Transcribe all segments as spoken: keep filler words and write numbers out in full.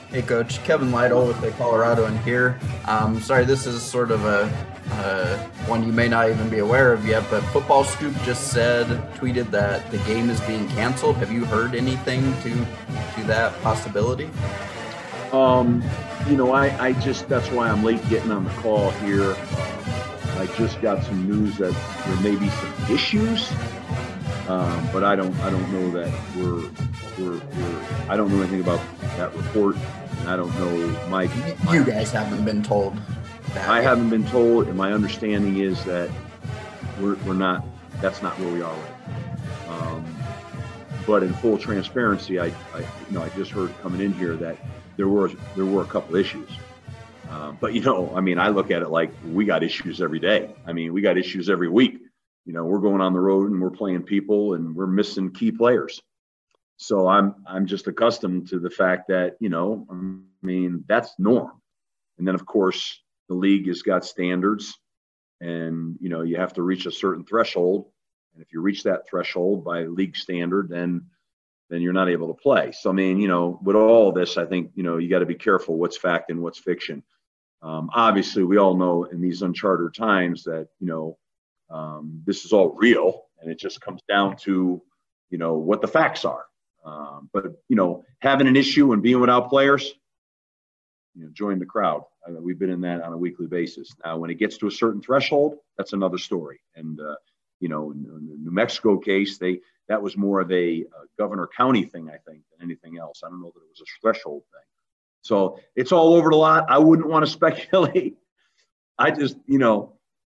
Hey, Coach. Kevin Lytle with the Colorado in here. Um, sorry, this is sort of a uh, one you may not even be aware of yet, but Football Scoop just said, tweeted that the game is being canceled. Have you heard anything to to that possibility? Um, you know, I, I just, that's why I'm late getting on the call here. Uh, I just got some news that there may be some issues, um, but I don't, I don't know that we're, we're, we're, I don't know anything about that report, and I don't know my. my you guys haven't been told that. I haven't been told, and my understanding is that we're, we're not, that's not where we are right now. Um, but in full transparency, I, I, you know, I just heard coming in here that there were there were a couple issues, um, but you know, I mean, I look at it like we got issues every day. I mean, we got issues every week. You know, we're going on the road and we're playing people and we're missing key players. So I'm I'm just accustomed to the fact that, you know, I mean, that's norm. And then of course the league has got standards, and you know, you have to reach a certain threshold. And if you reach that threshold by league standard, then then you're not able to play. So, I mean, you know, with all this, I think, you know, you got to be careful what's fact and what's fiction. Um, obviously, we all know in these uncharted times that, you know, um, this is all real, and it just comes down to, you know, what the facts are. Um, but, you know, having an issue and being without players, you know, join the crowd. I mean, we've been in that on a weekly basis. Now, when it gets to a certain threshold, that's another story. And, uh, you know, in, in the New Mexico case, they, that was more of a uh, governor county thing, I think, than anything else. I don't know that it was a threshold thing. So it's all over the lot. I wouldn't want to speculate. I just, you know,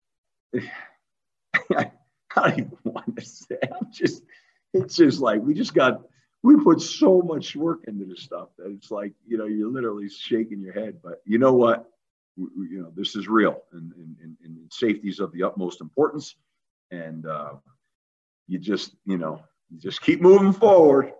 I don't even want to say. I'm just, it's just like, we just got, we put so much work into this stuff that it's like, you know, you're literally shaking your head. But you know what? We, we, you know, this is real, and, and, and, and safety is of the utmost importance. And, uh, you just, you know, you just keep moving forward.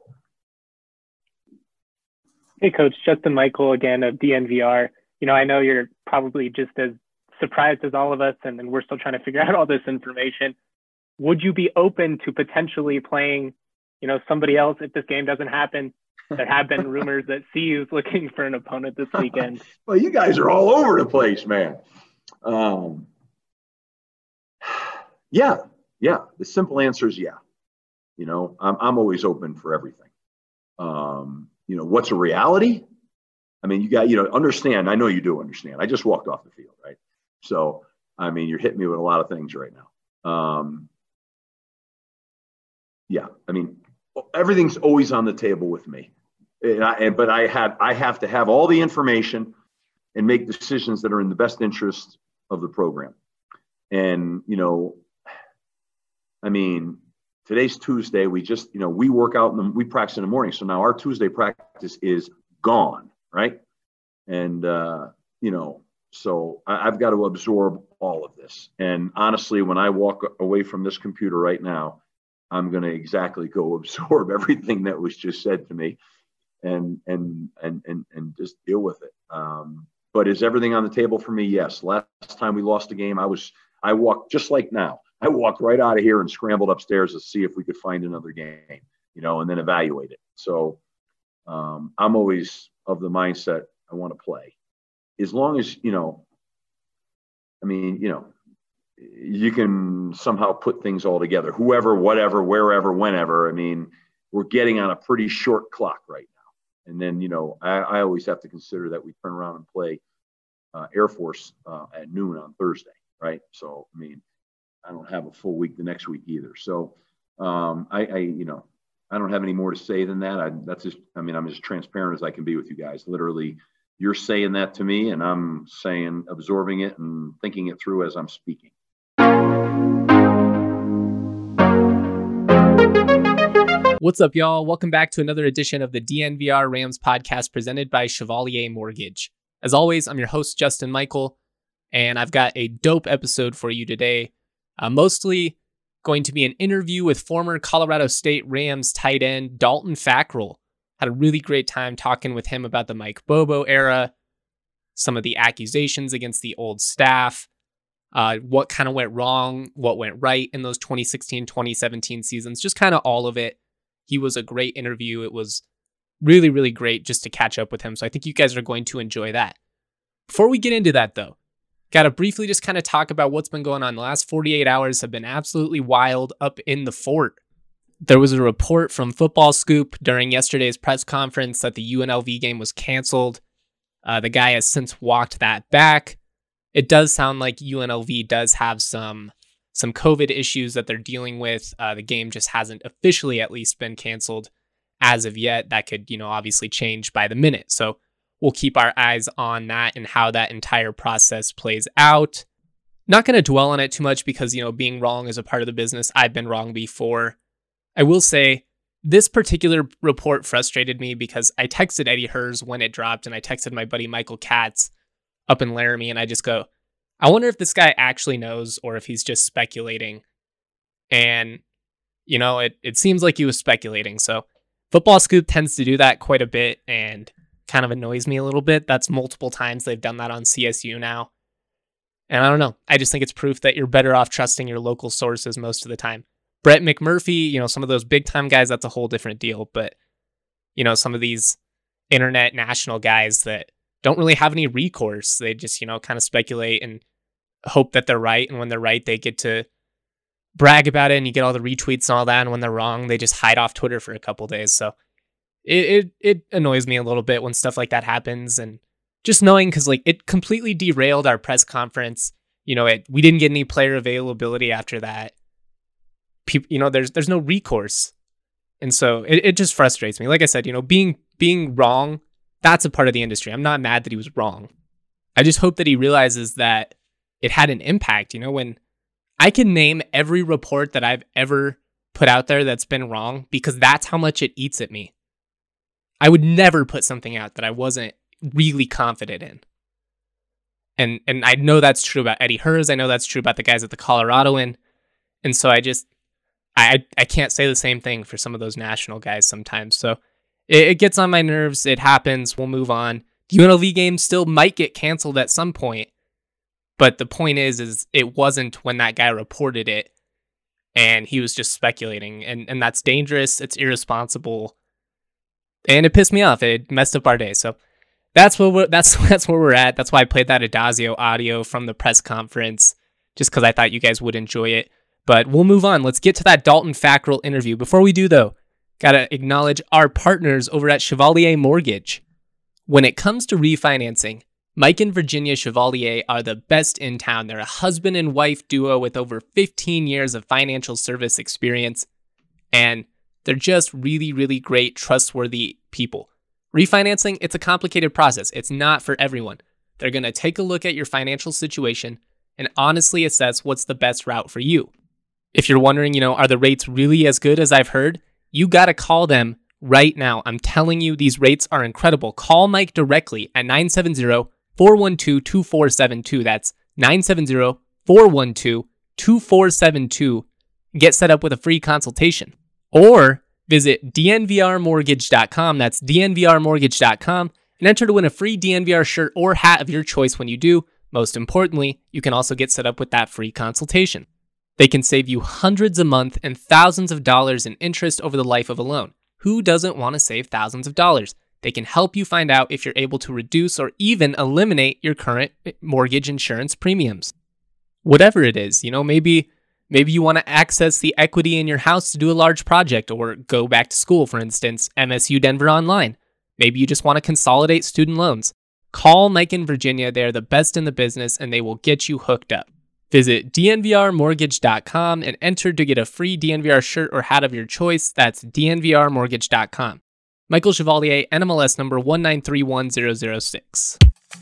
Hey, Coach, Justin Michael again of D N V R. You know, I know you're probably just as surprised as all of us, and, and we're still trying to figure out all this information. Would you be open to potentially playing, you know, somebody else if this game doesn't happen? There have been rumors that C U is looking for an opponent this weekend. Well, you guys are all over the place, man. Um, yeah. Yeah, the simple answer is yeah. You know, I'm I'm always open for everything. Um, you know, what's a reality? I mean, you got, you know, understand. I know you do understand. I just walked off the field, right? So, I mean, you're hitting me with a lot of things right now. Um, yeah, I mean, everything's always on the table with me. And I, and, but I have I have to have all the information and make decisions that are in the best interest of the program. And you know. I mean, today's Tuesday. We just, you know, we work out and we practice in the morning. So now our Tuesday practice is gone, right? And, uh, you know, so I, I've got to absorb all of this. And honestly, when I walk away from this computer right now, I'm going to exactly go absorb everything that was just said to me and, and, and, and, and just deal with it. Um, but is everything on the table for me? Yes. Last time we lost a game, I was, I walked just like now. I walked right out of here and scrambled upstairs to see if we could find another game, you know, and then evaluate it. So um, I'm always of the mindset I want to play. As long as, you know, I mean, you know, you can somehow put things all together, whoever, whatever, wherever, whenever. I mean, we're getting on a pretty short clock right now. And then, you know, I, I always have to consider that we turn around and play uh, Air Force uh, at noon on Thursday, right? So, I mean, I don't have a full week the next week either. So um, I, I, you know, I don't have any more to say than that. I, that's just, I mean, I'm as transparent as I can be with you guys. Literally, you're saying that to me and I'm saying, absorbing it and thinking it through as I'm speaking. What's up, y'all? Welcome back to another edition of the D N V R Rams podcast presented by Chevalier Mortgage. As always, I'm your host, Justin Michael, and I've got a dope episode for you today. Uh, mostly going to be an interview with former Colorado State Rams tight end Dalton Fackrell. Had a really great time talking with him about the Mike Bobo era, some of the accusations against the old staff, uh, what kind of went wrong, what went right in those twenty sixteen twenty seventeen seasons, just kind of all of it. He was a great interview. It was really, really great just to catch up with him. So I think you guys are going to enjoy that. Before we get into that, though, got to briefly just kind of talk about what's been going on. The last forty-eight hours have been absolutely wild up in the fort. There was a report from Football Scoop during yesterday's press conference that the U N L V game was canceled. Uh, the guy has since walked that back. It does sound like U N L V does have some some COVID issues that they're dealing with. Uh, the game just hasn't officially at least been canceled as of yet. That could, you know, obviously change by the minute. So we'll keep our eyes on that and how that entire process plays out. Not going to dwell on it too much because, you know, being wrong is a part of the business. I've been wrong before. I will say this particular report frustrated me because I texted Eddie Herz when it dropped, and I texted my buddy Michael Katz up in Laramie, and I just go, I wonder if this guy actually knows or if he's just speculating. And, you know, it, it seems like he was speculating. So Football Scoop tends to do that quite a bit and kind of annoys me a little bit. That's multiple times they've done that on C S U now. And I don't know. I just think it's proof that you're better off trusting your local sources most of the time. Brett McMurphy, you know, some of those big time guys, that's a whole different deal. But, you know, some of these internet national guys that don't really have any recourse, they just, you know, kind of speculate and hope that they're right. And when they're right, they get to brag about it and you get all the retweets and all that. And when they're wrong, they just hide off Twitter for a couple days. So it, it, it annoys me a little bit when stuff like that happens. And just knowing, because like it completely derailed our press conference. You know, it, we didn't get any player availability after that. People, you know, there's there's no recourse. And so it, it just frustrates me. Like I said, you know, being being wrong, that's a part of the industry. I'm not mad that he was wrong. I just hope that he realizes that it had an impact. You know, when I can name every report that I've ever put out there that's been wrong, because that's how much it eats at me. I would never put something out that I wasn't really confident in. And and I know that's true about Eddie Herz. I know that's true about the guys at the Coloradoan. And so I just, I I can't say the same thing for some of those national guys sometimes. So it, it gets on my nerves. It happens. We'll move on. The U N L V game still might get canceled at some point. But the point is, is it wasn't when that guy reported it. And he was just speculating. And, and that's dangerous. It's irresponsible. And it pissed me off. It messed up our day. So that's what we're, that's that's where we're at. That's why I played that Adazio audio from the press conference, just because I thought you guys would enjoy it. But we'll move on. Let's get to that Dalton Fackrell interview. Before we do, though, gotta acknowledge our partners over at Chevalier Mortgage. When it comes to refinancing, Mike and Virginia Chevalier are the best in town. They're a husband and wife duo with over fifteen years of financial service experience, and they're just really, really great, trustworthy people. Refinancing, it's a complicated process. It's not for everyone. They're going to take a look at your financial situation and honestly assess what's the best route for you. If you're wondering, you know, are the rates really as good as I've heard? You got to call them right now. I'm telling you, these rates are incredible. Call Mike directly at nine seven zero, four one two, two four seven two. That's nine seven zero, four one two, two four seven two. Get set up with a free consultation. Or visit D N V R mortgage dot com. That's D N V R mortgage dot com and enter to win a free D N V R shirt or hat of your choice when you do. Most importantly, you can also get set up with that free consultation. They can save you hundreds a month and thousands of dollars in interest over the life of a loan. Who doesn't want to save thousands of dollars? They can help you find out if you're able to reduce or even eliminate your current mortgage insurance premiums. Whatever it is, you know, maybe maybe you want to access the equity in your house to do a large project or go back to school, for instance, M S U Denver Online. Maybe you just want to consolidate student loans. Call Mike and Virginia. They're the best in the business and they will get you hooked up. Visit D N V R mortgage dot com and enter to get a free D N V R shirt or hat of your choice. That's D N V R mortgage dot com. Michael Chevalier, N M L S number one nine three one zero zero six.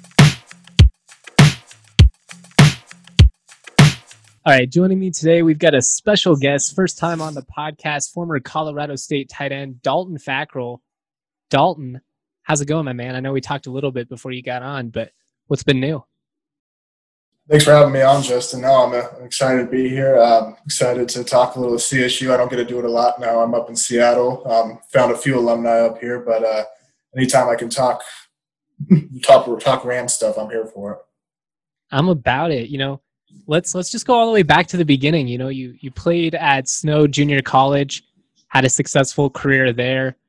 All right, joining me today, we've got a special guest, first time on the podcast, former Colorado State tight end, Dalton Fackrell. Dalton, how's it going, my man? I know we talked a little bit before you got on, but what's been new? Thanks for having me on, Justin. No, I'm, uh, I'm excited to be here. Um, excited to talk a little C S U. I don't get to do it a lot now. I'm up in Seattle. Um, found a few alumni up here, but uh, anytime I can talk, talk, talk Rams stuff, I'm here for it. I'm about it. You know, let's let's just go all the way back to the beginning. You know, you you played at Snow Junior College, had a successful career there.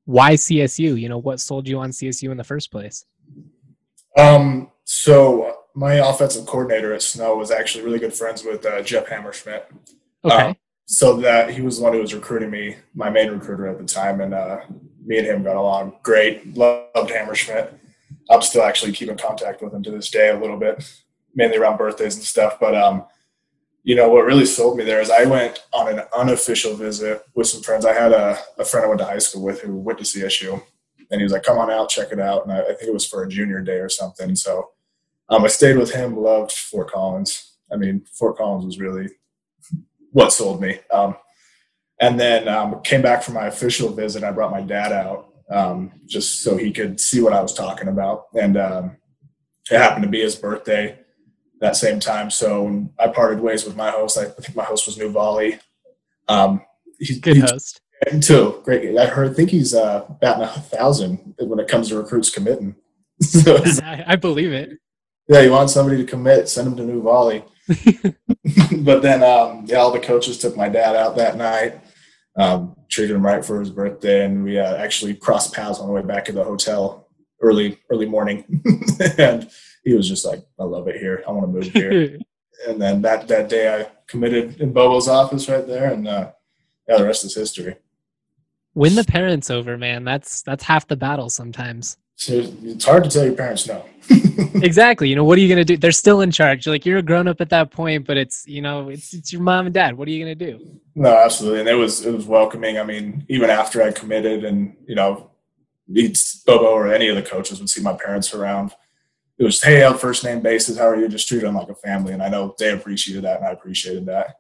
why C S U? You know, what sold you on C S U in the first place? Um, so my offensive coordinator at Snow was actually really good friends with uh, Jeff Hammerschmidt. Okay. Um, so that he was the one who was recruiting me, my main recruiter at the time, and uh, me and him got along great. Loved Hammerschmidt. I'm still actually keeping contact with him to this day a little bit, mainly around birthdays and stuff. But um, you know, what really sold me there is I went on an unofficial visit with some friends. I had a, a friend I went to high school with who went to C S U, and he was like, come on out, check it out. And I, I think it was for a junior day or something. So um, I stayed with him, loved Fort Collins. I mean, Fort Collins was really what sold me. Um, and then um, came back from my official visit. I brought my dad out um, just so he could see what I was talking about. And um, it happened to be his birthday that same time. So when I parted ways with my host, I think my host was New Volley. Um, he's good host. Too great. I heard, think he's uh, batting a thousand when it comes to recruits committing. So I, I believe it. Yeah, you want somebody to commit, send them to New Volley. But then, um, yeah, all the coaches took my dad out that night, um, treated him right for his birthday, and we uh, actually crossed paths on the way back to the hotel early, early morning. And he was just like, I love it here. I want to move here. And then that, that day I committed in Bobo's office right there, and uh, yeah, the rest is history. Win the parents over, man. That's that's half the battle sometimes. So it's hard to tell your parents no. Exactly. You know, what are you going to do? They're still in charge. Like, you're a grown up at that point, but it's, you know, it's it's your mom and dad. What are you going to do? No, absolutely. And it was it was welcoming. I mean, even after I committed and, you know, Bobo or any of the coaches would see my parents around, it was, hey, on first name basis, how are you? Just treat them like a family. And I know they appreciated that, and I appreciated that.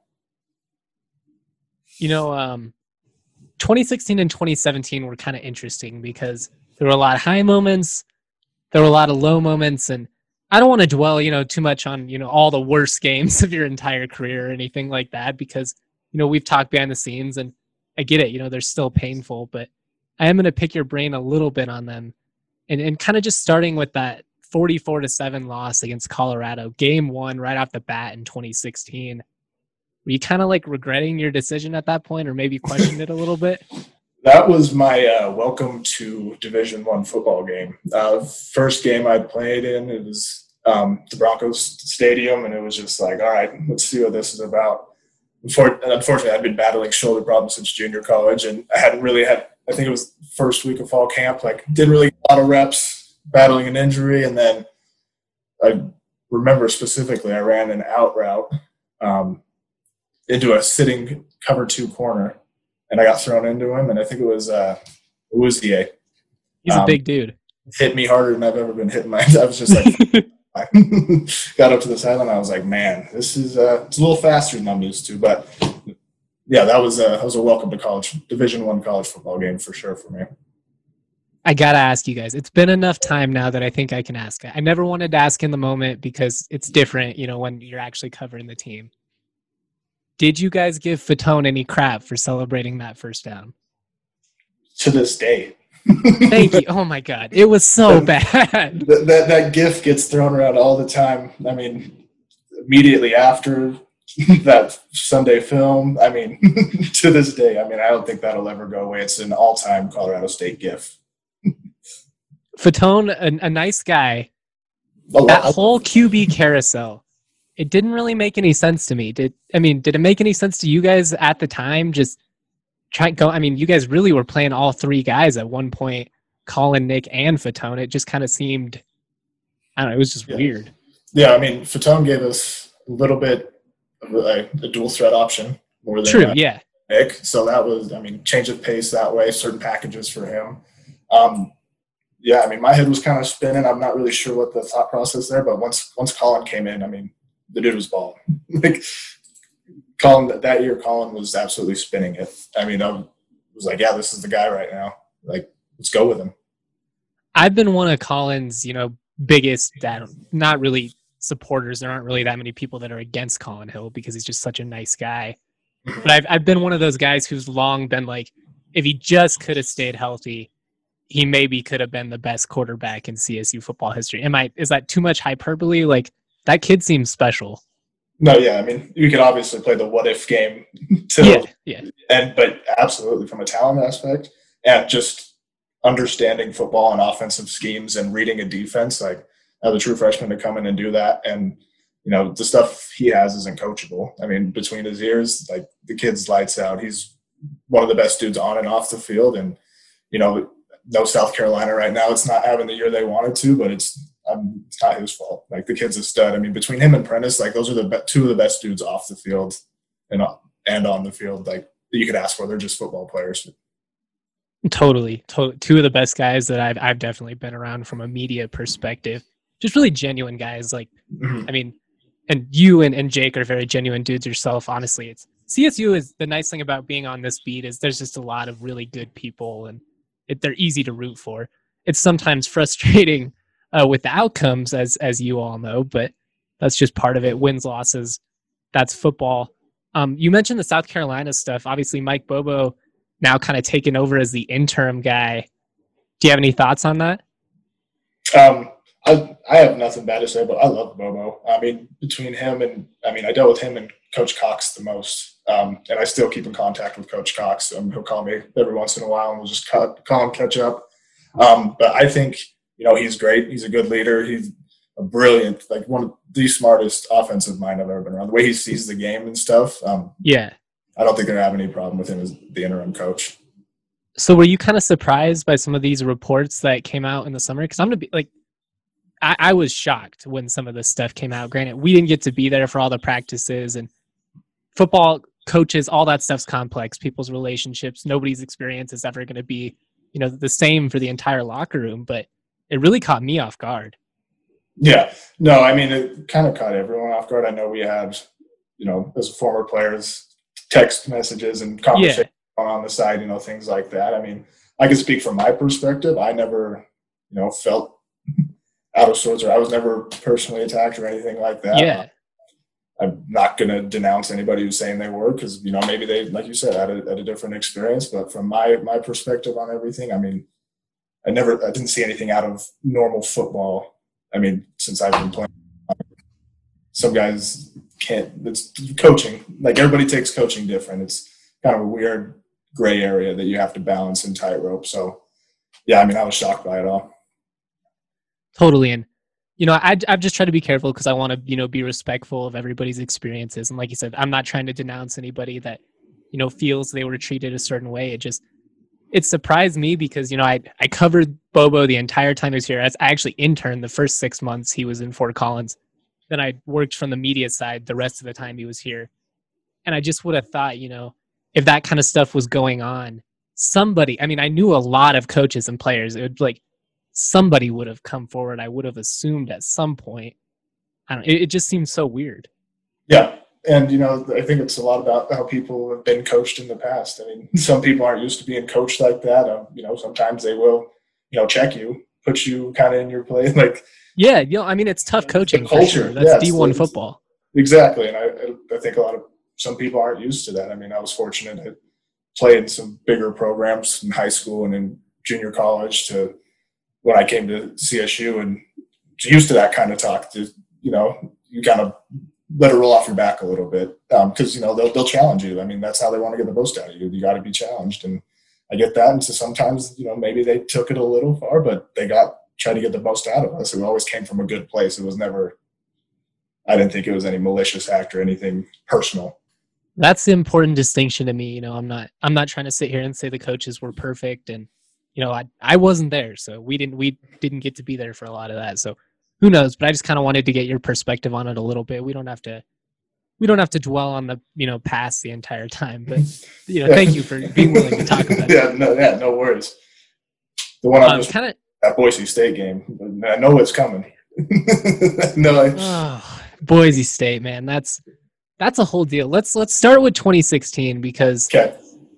You know, um, twenty sixteen and twenty seventeen were kind of interesting because there were a lot of high moments, there were a lot of low moments, and I don't want to dwell, you know, too much on, you know, all the worst games of your entire career or anything like that, because, you know, we've talked behind the scenes and I get it, you know, they're still painful, but I am going to pick your brain a little bit on them, and, and kind of just starting with that forty-four to seven loss against Colorado, game one right off the bat in twenty sixteen. Were you kind of like regretting your decision at that point, or maybe questioned it a little bit? That was my uh, welcome to Division One football game. Uh, first game I played in, it was um, the Broncos Stadium, and it was just like, all right, let's see what this is about. Unfortunately, I'd been battling shoulder problems since junior college, and I hadn't really had, I think it was the first week of fall camp, like didn't really get a lot of reps, battling an injury, and then I remember specifically I ran an out route um, into a sitting cover two corner, and I got thrown into him, and I think it was uh, Uzie. He's um, a big dude. Hit me harder than I've ever been hit in my. I was just like, I got up to the sideline. I was like, man, this is uh, it's a little faster than I'm used to. But yeah, that was a that was a welcome to college, Division One college football game for sure for me. I gotta ask you guys. It's been enough time now that I think I can ask. I never wanted to ask in the moment because it's different, you know, when you're actually covering the team. Did you guys give Fatone any crap for celebrating that first down? To this day. Thank you. Oh my God. It was so bad. That, that that gif gets thrown around all the time. I mean, immediately after that Sunday film, I mean, to this day, I mean, I don't think that'll ever go away. It's an all-time Colorado State gif. Fatone, a, a nice guy. A that lot. whole Q B carousel, it didn't really make any sense to me. Did I mean, did it make any sense to you guys at the time? Just try go. I mean, you guys really were playing all three guys at one point, Colin, Nick, and Fatone. It just kind of seemed, I don't know, it was just yeah. weird. Yeah, I mean, Fatone gave us a little bit of a, a dual threat option more than True, uh, yeah. Nick. So that was, I mean, change of pace that way, certain packages for him. Um, yeah, I mean, my head was kind of spinning. I'm not really sure what the thought process there, but once once Colin came in, I mean, the dude was balling. Like, Colin, that year, Colin was absolutely spinning it. I mean, I was like, yeah, this is the guy right now. Like, let's go with him. I've been one of Colin's, you know, biggest, not really supporters. There aren't really that many people that are against Colin Hill because he's just such a nice guy. But I've I've been one of those guys who's long been like, if he just could have stayed healthy, he maybe could have been the best quarterback in C S U football history. Am I? Is that too much hyperbole? Like, that kid seems special. No, yeah, I mean, you could obviously play the what if game, till, yeah, yeah, and but absolutely from a talent aspect, and just understanding football and offensive schemes and reading a defense, like as a true freshman to come in and do that. And, you know, the stuff he has isn't coachable. I mean, between his ears, like the kid's lights out. He's one of the best dudes on and off the field. And, you know, no South Carolina right now. It's not having the year they wanted to, but it's, um, it's not his fault. Like the kid's a stud. I mean, between him and Prentice, like those are the be- two of the best dudes off the field and, and on the field, like that you could ask for. They're just football players. Totally. To- two of the best guys that I've, I've definitely been around from a media perspective. Just really genuine guys. Like, mm-hmm. I mean, and you and, and Jake are very genuine dudes yourself. Honestly, it's C S U is the nice thing about being on this beat is there's just a lot of really good people and it, they're easy to root for. It's sometimes frustrating uh, with the outcomes, as as you all know, but that's just part of it. Wins, losses, that's football. Um, you mentioned the South Carolina stuff. Obviously, Mike Bobo now kind of taken over as the interim guy. Do you have any thoughts on that? Um, I I have nothing bad to say, but I love Bobo. I mean, between him and I mean, I dealt with him and Coach Cox the most, um, and I still keep in contact with Coach Cox. Um, he'll call me every once in a while, and we'll just call, call and catch up. Um, but I think you know he's great. He's a good leader. He's a brilliant, like one of the smartest offensive mind I've ever been around. The way he sees the game and stuff. Um, yeah, I don't think they're gonna have any problem with him as the interim coach. So, were you kind of surprised by some of these reports that came out in the summer? Because I'm gonna be like. I, I was shocked when some of this stuff came out. Granted, we didn't get to be there for all the practices and football coaches, all that stuff's complex. People's relationships, nobody's experience is ever going to be, you know, the same for the entire locker room. But it really caught me off guard. Yeah, no, I mean, it kind of caught everyone off guard. I know we had, you know, as former players, text messages and conversations yeah. on the side, you know, things like that. I mean, I can speak from my perspective. I never, you know, felt out of sorts, or I was never personally attacked or anything like that. Yeah. I'm not going to denounce anybody who's saying they were, because, you know, maybe they, like you said, had a, had a different experience. But from my, my perspective on everything, I mean, I never, I didn't see anything out of normal football. I mean, since I've been playing, some guys can't, it's coaching. Like everybody takes coaching different. It's kind of a weird gray area that you have to balance and tightrope. So yeah, I mean, I was shocked by it all. Totally. And, you know, I, I've just tried to be careful because I want to, you know, be respectful of everybody's experiences. And like you said, I'm not trying to denounce anybody that, you know, feels they were treated a certain way. It just, it surprised me because, you know, I, I covered Bobo the entire time he was here. I actually interned the first six months he was in Fort Collins. Then I worked from the media side the rest of the time he was here. And I just would have thought, you know, if that kind of stuff was going on, somebody, I mean, I knew a lot of coaches and players. It would like, somebody would have come forward. I would have assumed at some point. I don't. It, it just seems so weird. Yeah, and you know, I think it's a lot about how people have been coached in the past. I mean, some people aren't used to being coached like that. Um, you know, sometimes they will, you know, check you, put you kind of in your place. Like, yeah, you know, I mean, it's tough coaching. The culture, for sure. That's yeah, D one football. Exactly, and I, I think a lot of some people aren't used to that. I mean, I was fortunate to play in some bigger programs in high school and in junior college to when I came to C S U and used to that kind of talk. To, you know, you kind of let it roll off your back a little bit because, um, you know, they'll, they'll challenge you. I mean, that's how they want to get the most out of you. You got to be challenged. And I get that. And so sometimes, you know, maybe they took it a little far, but they got, tried to get the most out of us. It always came from a good place. It was never, I didn't think it was any malicious act or anything personal. That's the important distinction to me. You know, I'm not, I'm not trying to sit here and say the coaches were perfect and, you know, I I wasn't there, so we didn't we didn't get to be there for a lot of that. So who knows? But I just kind of wanted to get your perspective on it a little bit. We don't have to we don't have to dwell on the you know past the entire time. But you know, yeah. Thank you for being willing to talk about it. Yeah, no, yeah, no worries. The one I'm um, just kind of that Boise State game. I know it's coming. no, I, oh, Boise State, man, that's that's a whole deal. Let's let's start with twenty sixteen because okay.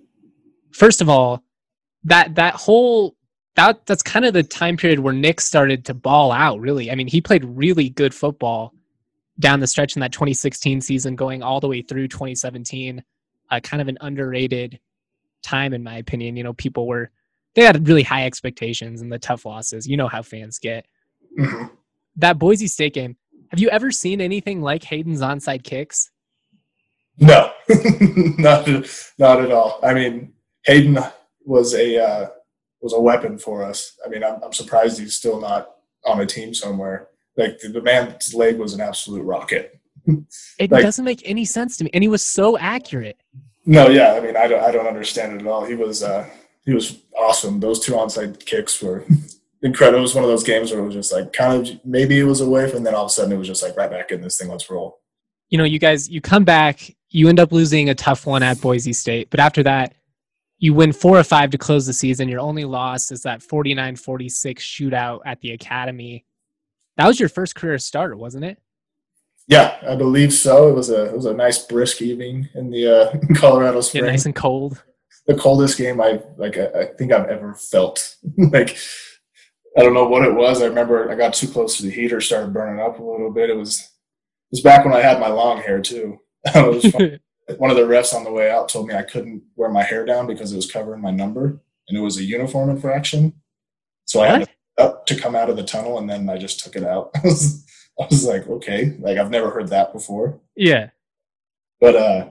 First of all. That that whole that that's kind of the time period where Nick started to ball out, really. I mean, he played really good football down the stretch in that twenty sixteen season, going all the way through twenty seventeen. Uh, kind of an underrated time, in my opinion. You know, people were they had really high expectations and the tough losses. You know how fans get. Mm-hmm. That Boise State game. Have you ever seen anything like Hayden's onside kicks? No, not not at all. I mean, Hayden was a uh, was a weapon for us. I mean, I'm, I'm surprised he's still not on a team somewhere. Like the, the man's leg was an absolute rocket. It like, doesn't make any sense to me, and he was so accurate. No, yeah, I mean, I don't, I don't understand it at all. He was, uh, he was awesome. Those two onside kicks were incredible. It was one of those games where it was just like kind of maybe it was away, and then all of a sudden it was just like right back in this thing. Let's roll. You know, you guys, you come back, you end up losing a tough one at Boise State, but after that, you win four or five to close the season. Your only loss is that forty-nine forty-six shootout at the Academy. That was your first career starter, wasn't it? Yeah, I believe so. It was a it was a nice brisk evening in the uh, Colorado Springs. Yeah, nice and cold. The coldest game I like I, I think I've ever felt. Like I don't know what it was. I remember I got too close to the heater, started burning up a little bit. It was it was back when I had my long hair too. It was fun. One of the refs on the way out told me I couldn't wear my hair down because it was covering my number, and it was a uniform infraction. So what? I had to, up to come out of the tunnel, and then I just took it out. I was, I was like, okay, like I've never heard that before. Yeah, but uh,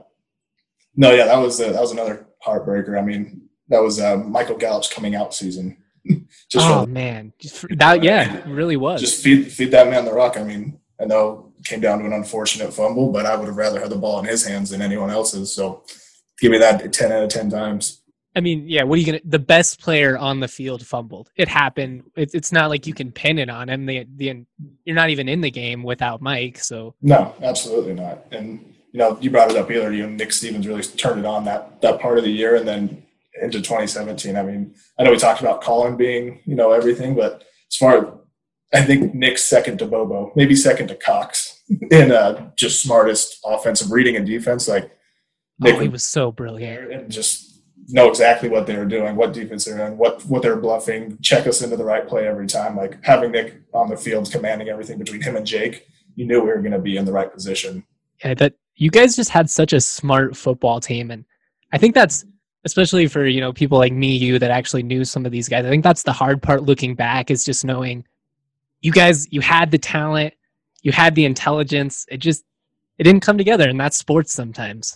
no, yeah, that was uh, that was another heartbreaker. I mean, that was uh, Michael Gallup's coming out season. Just oh from, man, just, that yeah, it really was. Just feed feed that man the rock. I mean, I know. Came down to an unfortunate fumble, but I would have rather had the ball in his hands than anyone else's. So give me that ten out of ten times. I mean, yeah, what are you going to – the best player on the field fumbled. It happened. It, it's not like you can pin it on him. The, the, you're not even in the game without Mike. So no, absolutely not. And, you know, you brought it up either. You know, Nick Stevens really turned it on that, that part of the year and then into twenty seventeen. I mean, I know we talked about Colin being, you know, everything, but as far as I think Nick's second to Bobo, maybe second to Cox. In uh, just smartest offensive reading and defense, like Nick oh, he was so brilliant and just know exactly what they were doing, what defense they're in, what what they're bluffing, check us into the right play every time. Like having Nick on the field, commanding everything between him and Jake, you knew we were going to be in the right position. Yeah, that you guys just had such a smart football team, and I think that's especially for you know people like me, you that actually knew some of these guys. I think that's the hard part looking back is just knowing you guys, you had the talent. You had the intelligence. It just it didn't come together, and that's sports sometimes.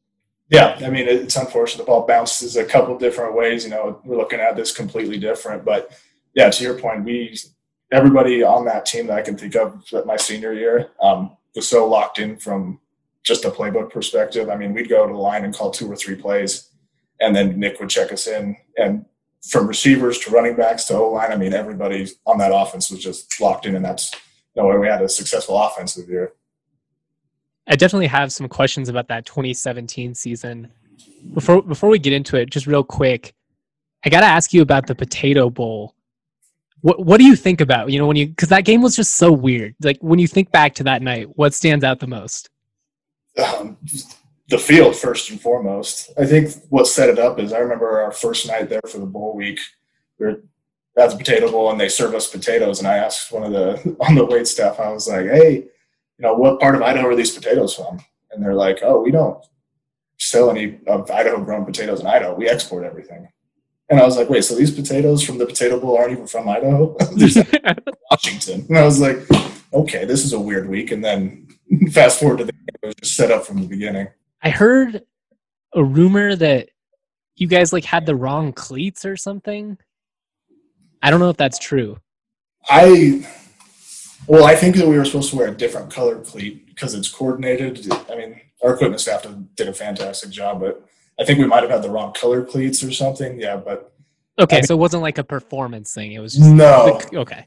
Yeah, I mean, it's unfortunate. The ball bounces a couple different ways. You know, we're looking at this completely different. But, yeah, to your point, we everybody on that team that I can think of at my senior year um, was so locked in from just a playbook perspective. I mean, we'd go to the line and call two or three plays, and then Nick would check us in. And from receivers to running backs to O-line, I mean, everybody on that offense was just locked in, and that's – no way we had a successful offensive year. I definitely have some questions about that twenty seventeen season. Before before we get into it, just real quick, I got to ask you about the Potato Bowl. What what do you think about, you know, when you, because that game was just so weird. Like when you think back to that night, what stands out the most? Um, the field, first and foremost. I think what set it up is I remember our first night there for the bowl week. We were at the Potato Bowl and they serve us potatoes. And I asked one of the, on the wait staff, I was like, hey, you know, what part of Idaho are these potatoes from? And they're like, oh, we don't sell any of Idaho grown potatoes in Idaho. We export everything. And I was like, wait, so these potatoes from the Potato Bowl aren't even from Idaho? They're Washington. And I was like, okay, this is a weird week. And then fast forward to the game, it was just set up from the beginning. I heard a rumor that you guys like had the wrong cleats or something. I don't know if that's true. I, well, I think that we were supposed to wear a different colored cleat because it's coordinated. I mean, our equipment staff did a fantastic job, but I think we might have had the wrong color cleats or something. Yeah, but okay, I mean, so it wasn't like a performance thing. It was just no. The, okay,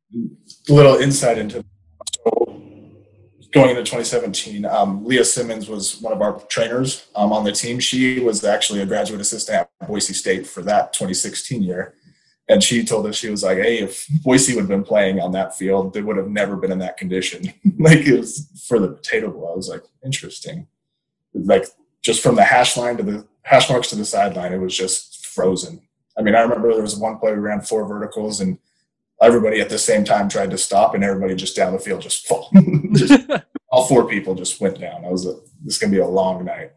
a little insight into so going into twenty seventeen. Um, Leah Simmons was one of our trainers um, on the team. She was actually a graduate assistant at Boise State for that twenty sixteen year. And she told us, she was like, hey, if Boise would have been playing on that field, they would have never been in that condition. Like it was for the Potato Bowl. I was like, interesting. Like just from the hash line to the hash marks to the sideline, it was just frozen. I mean, I remember there was one play we ran four verticals and everybody at the same time tried to stop and everybody just down the field just fall. just, all four people just went down. I was like, this is going to be a long night.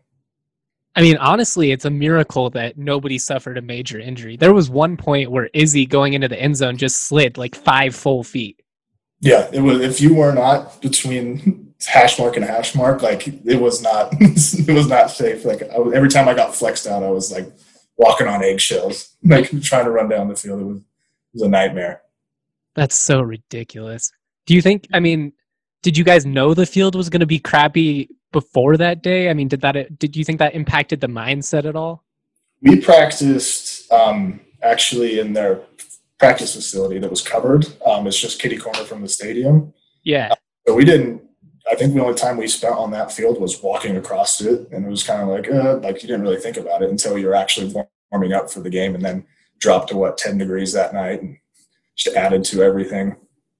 I mean, honestly, it's a miracle that nobody suffered a major injury. There was one point where Izzy going into the end zone just slid like five full feet. Yeah, it was. If you were not between hash mark and hash mark, like it was not, it was not safe. Like I, every time I got flexed out, I was like, walking on eggshells, like trying to run down the field. It was, it was a nightmare. That's so ridiculous. Do you think, I mean, did you guys know the field was going to be crappy before that day? I mean, did that, did you think that impacted the mindset at all? We practiced um, actually in their practice facility that was covered. Um, it's just kitty corner from the stadium. Yeah. Uh, so we didn't, I think the only time we spent on that field was walking across it. And it was kind of like, uh, like you didn't really think about it until you're actually warming up for the game, and then dropped to what, ten degrees that night, and just added to everything.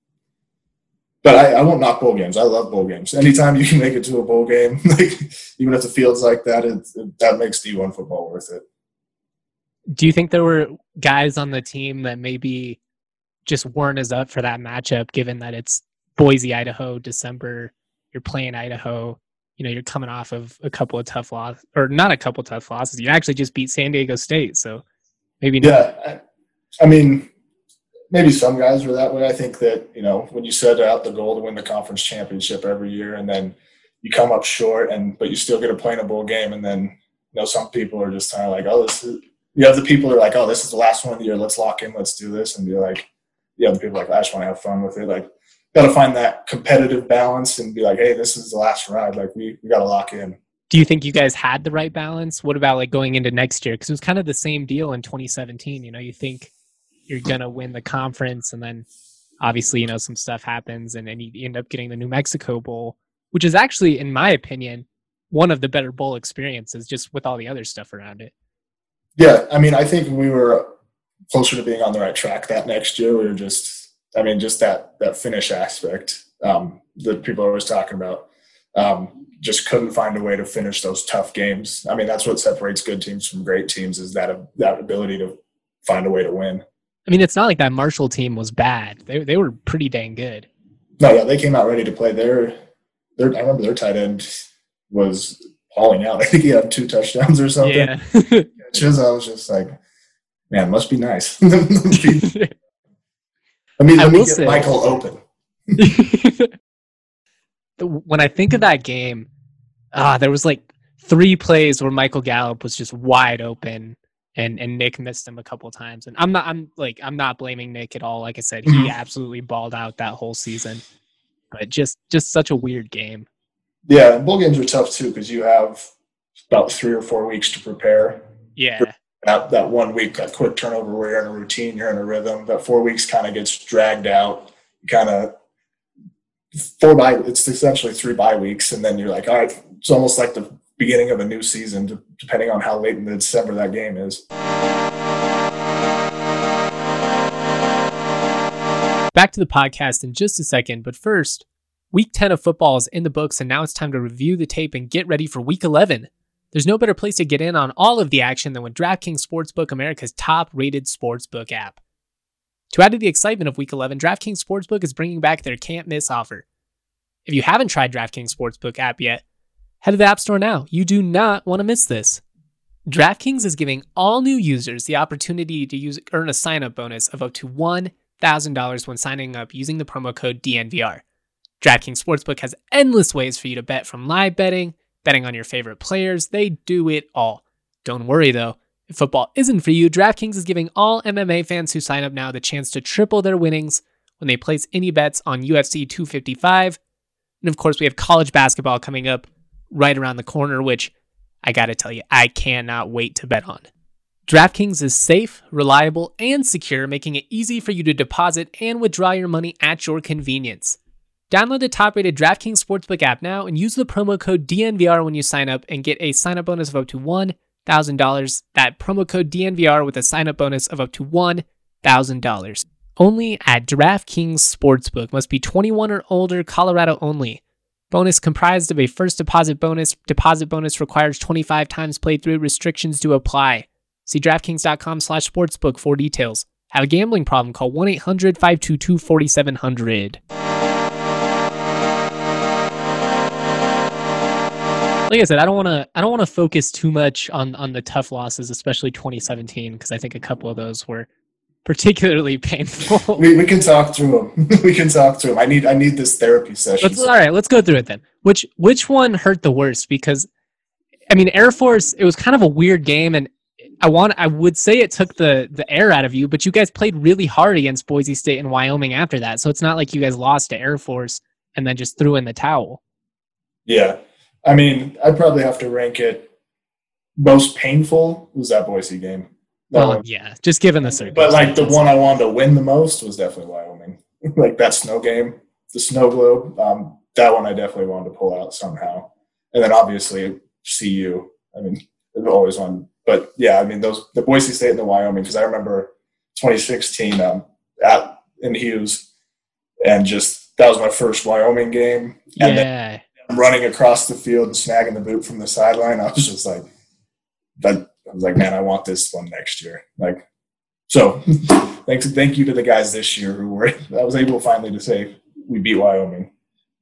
But I, I won't knock bowl games. I love bowl games. Anytime you can make it to a bowl game, like even if the field's like that, it, it, that makes D one football worth it. Do you think there were guys on the team that maybe just weren't as up for that matchup, given that it's Boise, Idaho, December, you're playing Idaho, you know, you're coming off of a couple of tough losses, or not a couple of tough losses. You actually just beat San Diego State, so maybe not. Yeah, I, I mean, maybe some guys were that way. I think that, you know, when you set out the goal to win the conference championship every year, and then you come up short, and but you still get to play in a bowl game, and then, you know, some people are just kind of like, oh, this is, you have the people who are like, oh, this is the last one of the year, let's lock in, let's do this, and be like, you have the people like, I just want to have fun with it. Like, got to find that competitive balance and be like, hey, this is the last ride. Like, we, we got to lock in. Do you think you guys had the right balance? What about like going into next year? Because it was kind of the same deal in twenty seventeen. You know, you think you're going to win the conference, and then obviously, you know, some stuff happens, and then you end up getting the New Mexico Bowl, which is actually, in my opinion, one of the better bowl experiences, just with all the other stuff around it. Yeah, I mean, I think we were closer to being on the right track that next year. We were just, I mean, just that that finish aspect um, that people are always talking about. Um, just couldn't find a way to finish those tough games. I mean, that's what separates good teams from great teams, is that that ability to find a way to win. I mean, it's not like that Marshall team was bad. They they were pretty dang good. No, yeah, they came out ready to play. Their, their I remember their tight end was hauling out. I think he had two touchdowns or something. Yeah. I was just like, man, must be nice. let me, let me, let me get say, Michael open. When I think of that game, ah, there was like three plays where Michael Gallup was just wide open, and, and Nick missed him a couple of times. And I'm not, I'm like, I'm not blaming Nick at all. Like I said, he mm-hmm. absolutely balled out that whole season. But just, just such a weird game. Yeah, bowl games are tough too, because you have about three or four weeks to prepare. Yeah. That that one week, that quick turnover where you're in a routine, you're in a rhythm. That four weeks kind of gets dragged out. Kind of four bye. It's essentially three bye weeks, and then you're like, all right, it's almost like the beginning of a new season, depending on how late in December that game is. Back to the podcast in just a second, but first, week ten of football is in the books, and now it's time to review the tape and get ready for week eleven. There's no better place to get in on all of the action than with DraftKings Sportsbook, America's top-rated sportsbook app. To add to the excitement of week eleven, DraftKings Sportsbook is bringing back their can't-miss offer. If you haven't tried DraftKings Sportsbook app yet, head to the App Store now. You do not want to miss this. DraftKings is giving all new users the opportunity to use earn a sign-up bonus of up to one thousand dollars when signing up using the promo code D N V R. DraftKings Sportsbook has endless ways for you to bet, from live betting, betting on your favorite players. They do it all. Don't worry though, if football isn't for you, DraftKings is giving all M M A fans who sign up now the chance to triple their winnings when they place any bets on U F C two fifty-five. And of course, we have college basketball coming up right around the corner, which I gotta tell you, I cannot wait to bet on. DraftKings is safe, reliable, and secure, making it easy for you to deposit and withdraw your money at your convenience. Download the top-rated DraftKings Sportsbook app now and use the promo code D N V R when you sign up and get a sign-up bonus of up to one thousand dollars. That promo code D N V R with a sign-up bonus of up to one thousand dollars. Only at DraftKings Sportsbook. Must be twenty-one or older, Colorado only. Bonus comprised of a first deposit bonus. Deposit bonus requires twenty-five times playthrough. Restrictions do apply. See DraftKings.com slash sportsbook for details. Have a gambling problem? Call one eight hundred five two two four seven zero zero. Like I said, I don't want to. I don't want to focus too much on, on the tough losses, especially twenty seventeen, because I think a couple of those were particularly painful. We we can talk through them. we can talk through them. I need I need this therapy session. Let's, all right, let's go through it then. Which which one hurt the worst? Because I mean, Air Force, it was kind of a weird game, and I want I would say it took the the air out of you, but you guys played really hard against Boise State and Wyoming after that. So it's not like you guys lost to Air Force and then just threw in the towel. Yeah. I mean, I'd probably have to rank it most painful was that Boise game. That Well, one. yeah, just given the But circumstances. like the one I wanted to win the most was definitely Wyoming. Like that snow game, the snow globe. Um, that one I definitely wanted to pull out somehow. And then obviously C U. I mean, I've always won. But yeah, I mean those the Boise State and the Wyoming, because I remember twenty sixteen um, at in Hughes, and just that was my first Wyoming game. And Yeah. then running across the field and snagging the boot from the sideline, I was just like, that. I was like, man, I want this one next year. Like, so thanks, thank you to the guys this year who were. I was able finally to say we beat Wyoming.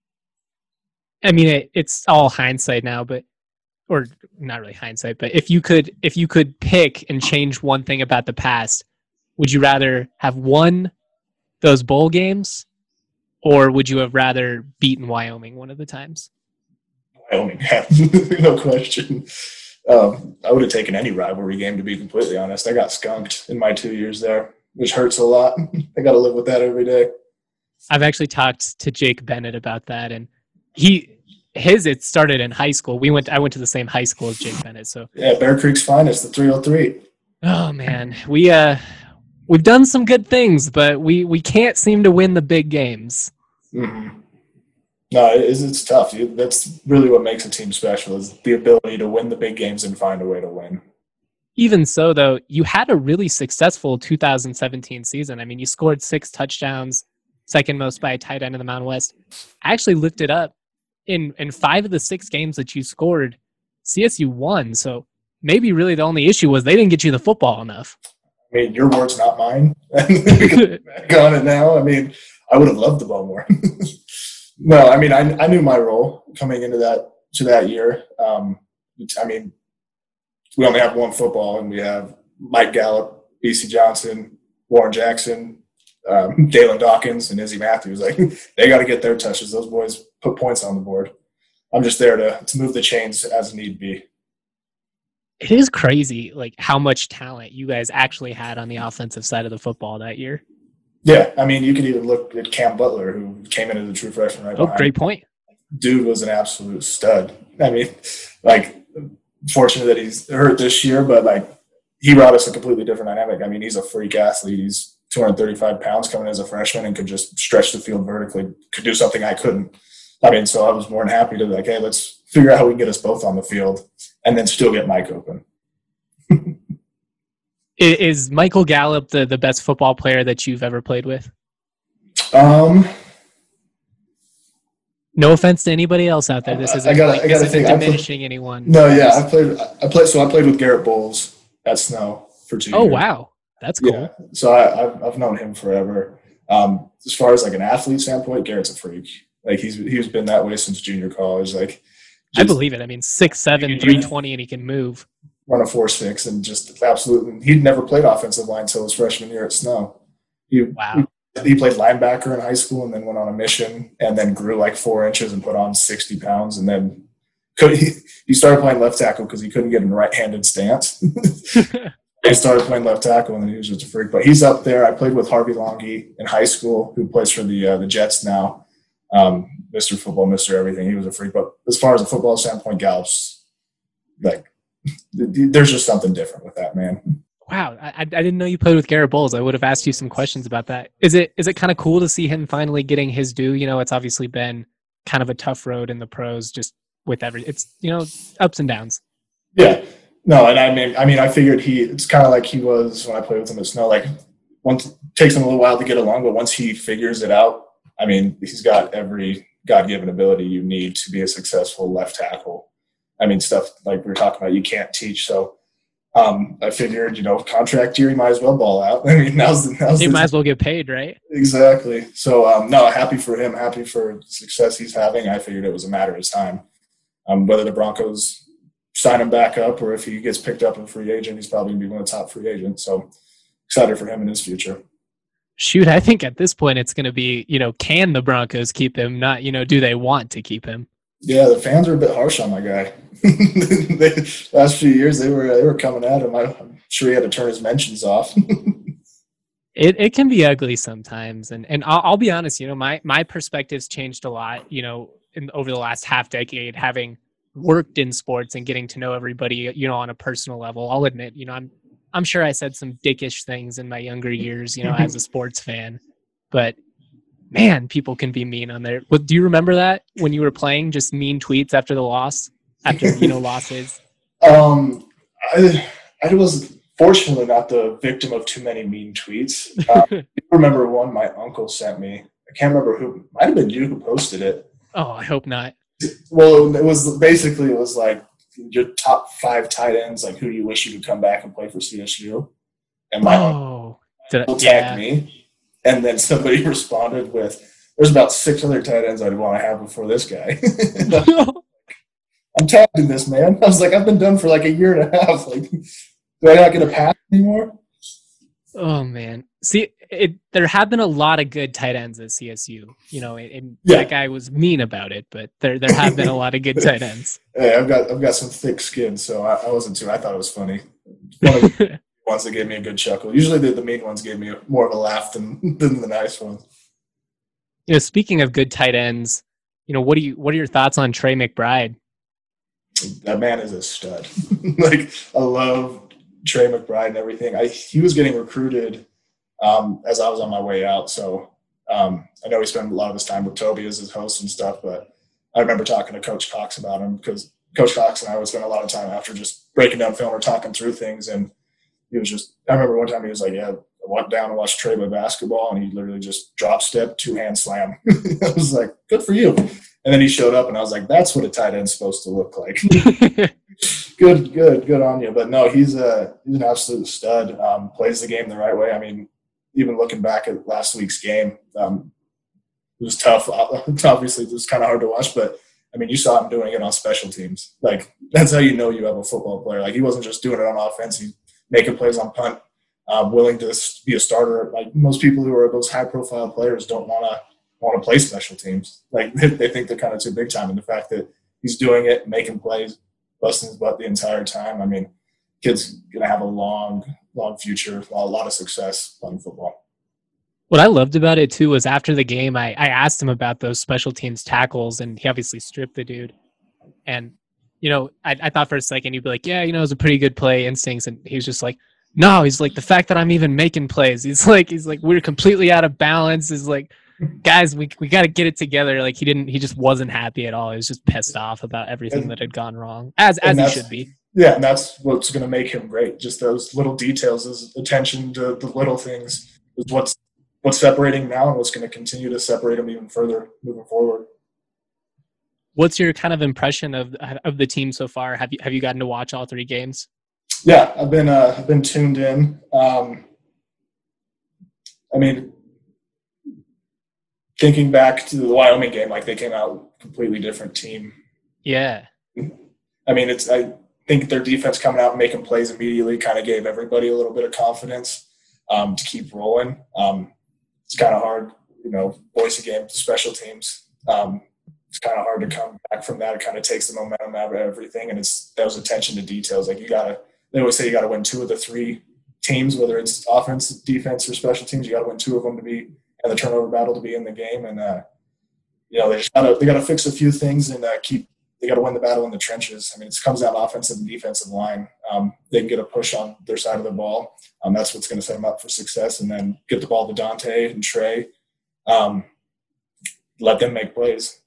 I mean, it, it's all hindsight now, but or not really hindsight, but if you could if you could pick and change one thing about the past, would you rather have won those bowl games, or would you have rather beaten Wyoming one of the times? Wyoming, no question. Um, I would have taken any rivalry game, to be completely honest. I got skunked in my two years there, which hurts a lot. I got to live with that every day. I've actually talked to Jake Bennett about that, and he his it started in high school. We went I went to the same high school as Jake Bennett, so Yeah, Bear Creek's finest, the three oh three. oh man, we uh we've done some good things, but we we can't seem to win the big games. Mm-hmm. No, it is, it's tough. That's really what makes a team special, is the ability to win the big games and find a way to win. Even so, though, you had a really successful two thousand seventeen season. I mean, you scored six touchdowns, second most by a tight end in the Mountain West. I actually looked it up. In in five of the six games that you scored, C S U won. So maybe really the only issue was they didn't get you the football enough. I mean, your words, not mine. Back on it now. I mean, I would have loved the ball more. No, I mean, I I knew my role coming into that to that year. Um, I mean, we only have one football, and we have Mike Gallup, B C Johnson, Warren Jackson, um, Dalen Dawkins, and Izzy Matthews. Like, they got to get their touches. Those boys put points on the board. I'm just there to to move the chains as need be. It is crazy, like how much talent you guys actually had on the offensive side of the football that year. Yeah, I mean, you could even look at Cam Butler, who came into the true freshman right Oh, behind. great point. Dude was an absolute stud. I mean, like, fortunate that he's hurt this year, but like, he brought us a completely different dynamic. I mean, he's a freak athlete. He's two hundred thirty-five pounds coming as a freshman and could just stretch the field vertically, could do something I couldn't. I mean, so I was more than happy to be like, hey, let's figure out how we can get us both on the field and then still get Mike open. Is Michael Gallup the, the best football player that you've ever played with? Um, No offense to anybody else out there. This isn't, I gotta- like, I gotta this isn't think. I played- diminishing anyone. no, yeah, I played. I played. So I played with Garrett Bowles at Snow for two Oh, years. wow. That's cool. Yeah, so I, I've I've known him forever. Um, as far as like an athlete standpoint, Garrett's a freak. Like he's he's been that way since junior college. Like, I just believe it. I mean, six seven, three twenty, and he can move. run a four six and just absolutely. He'd never played offensive line until his freshman year at Snow. He, Wow. He, he played linebacker in high school and then went on a mission and then grew like four inches and put on sixty pounds and then could he, he started playing left tackle because he couldn't get in a right-handed stance. He started playing left tackle and then he was just a freak. But he's up there. I played with Harvey Longy in high school, who plays for the uh, the Jets now. Um, Mister Football, Mister Everything. He was a freak. But as far as a football standpoint, Gallup's like there's just something different with that man. Wow, I, I didn't know you played with Garrett Bowles. I would have asked you some questions about that. Is it is it kind of cool to see him finally getting his due? You know, it's obviously been kind of a tough road in the pros, just with every. It's you know ups and downs. Yeah, no, and I mean, I mean, I figured he. It's kind of like he was when I played with him at Snow. Like, once it takes him a little while to get along, but once he figures it out, I mean, he's got every God-given ability you need to be a successful left tackle. I mean, stuff like we were talking about, you can't teach. So um, I figured, you know, contract year, you might as well ball out. I mean, now's the now's He the might as well get paid, right? Exactly. So, um, no, happy for him, happy for the success he's having. I figured it was a matter of time. Um, whether the Broncos sign him back up or if he gets picked up in free agent, he's probably going to be one of the top free agents. So excited for him in his future. Shoot, I think at this point it's going to be, you know, can the Broncos keep him? Not, you know, do they want to keep him? Yeah, the fans were a bit harsh on my guy. The last few years, they were they were coming at him. I, I'm sure he had to turn his mentions off. It it can be ugly sometimes, and and I'll, I'll be honest. You know, my my perspective's changed a lot. You know, in over the last half decade, having worked in sports and getting to know everybody, you know, on a personal level. I'll admit, you know, I'm I'm sure I said some dickish things in my younger years, you know, as a sports fan, but man, people can be mean on there. But do you remember that when you were playing, just mean tweets after the loss, after you know losses? Um, I I was fortunately not the victim of too many mean tweets. Uh, I remember one my uncle sent me. I can't remember who. Might have been you who posted it. Oh, I hope not. Well, it was basically it was like your top five tight ends. Like, who do you wish you could come back and play for C S U? And my oh, uncle I, tagged yeah. me, and then somebody responded with, "There's about six other tight ends I'd want to have before this guy." I'm tagged in this, man. I was like, I've been done for like a year and a half. Like, do I not get a pass anymore? Oh man, see, it, there have been a lot of good tight ends at C S U. You know, and Yeah. that guy was mean about it, but there there have been a lot of good tight ends. Hey, I've got I've got some thick skin, so I, I wasn't too. I thought it was funny. One of the ones that gave me a good chuckle. Usually, the, the mean ones gave me more of a laugh than than the nice ones. You know, speaking of good tight ends, you know, what do you what are your thoughts on Trey McBride? That man is a stud. Like, I love Trey McBride and everything. I he was getting recruited um, as I was on my way out, so um, I know he spent a lot of his time with Toby as his host and stuff. But I remember talking to Coach Cox about him because Coach Cox and I would spend a lot of time after just breaking down film or talking through things, and he was just. I remember one time he was like, "Yeah, I went down and watched Trey play basketball, and he literally just drop step, two hand slam." I was like, "Good for you." And then he showed up, and I was like, "That's what a tight end's supposed to look like." Good, good, good on you. But no, he's a he's an absolute stud. Um, plays the game the right way. I mean, even looking back at last week's game, um, it was tough. Obviously, it was kind of hard to watch, but I mean, you saw him doing it on special teams. Like, that's how you know you have a football player. Like, he wasn't just doing it on offense; he's making plays on punt, um, willing to be a starter. Like, most people who are those high-profile players don't want to. want to play special teams. Like, they think they're kind of too big time. And the fact that he's doing it, making plays, busting his butt the entire time. I mean, kid's going to have a long, long future, a lot of success playing football. What I loved about it too was after the game, I, I asked him about those special teams tackles, and he obviously stripped the dude. And, you know, I, I thought for a second he'd be like, yeah, you know, it was a pretty good play, instincts. And he was just like, no, he's like, the fact that I'm even making plays, he's like, he's like, we're completely out of balance. He's like, guys, we we got to get it together. Like, he didn't, he just wasn't happy at all. He was just pissed off about everything and, that had gone wrong, as as he should be. Yeah, and that's what's going to make him great. Just those little details, his attention to the little things is what's what's separating now and what's going to continue to separate him even further moving forward. What's your kind of impression of of the team so far? Have you have you gotten to watch all three games? Yeah, I've been uh, I've been tuned in. Um, I mean. Thinking back to the Wyoming game, like, they came out completely different team. Yeah. I mean, it's I think their defense coming out and making plays immediately kind of gave everybody a little bit of confidence um, to keep rolling. Um, it's kind of hard, you know, Boise game, special teams. Um, it's kind of hard to come back from that. It kind of takes the momentum out of everything, and it's that was attention to details. Like, you gotta, they always say you got to win two of the three teams, whether it's offense, defense, or special teams. You got to win two of them to be. And the turnover battle to be in the game, and uh, you know they just gotta they gotta fix a few things and uh, keep they gotta win the battle in the trenches. I mean, it comes down to offensive and defensive line. Um, they can get a push on their side of the ball. Um, that's what's going to set them up for success, and then get the ball to Dante and Trey. Um, let them make plays.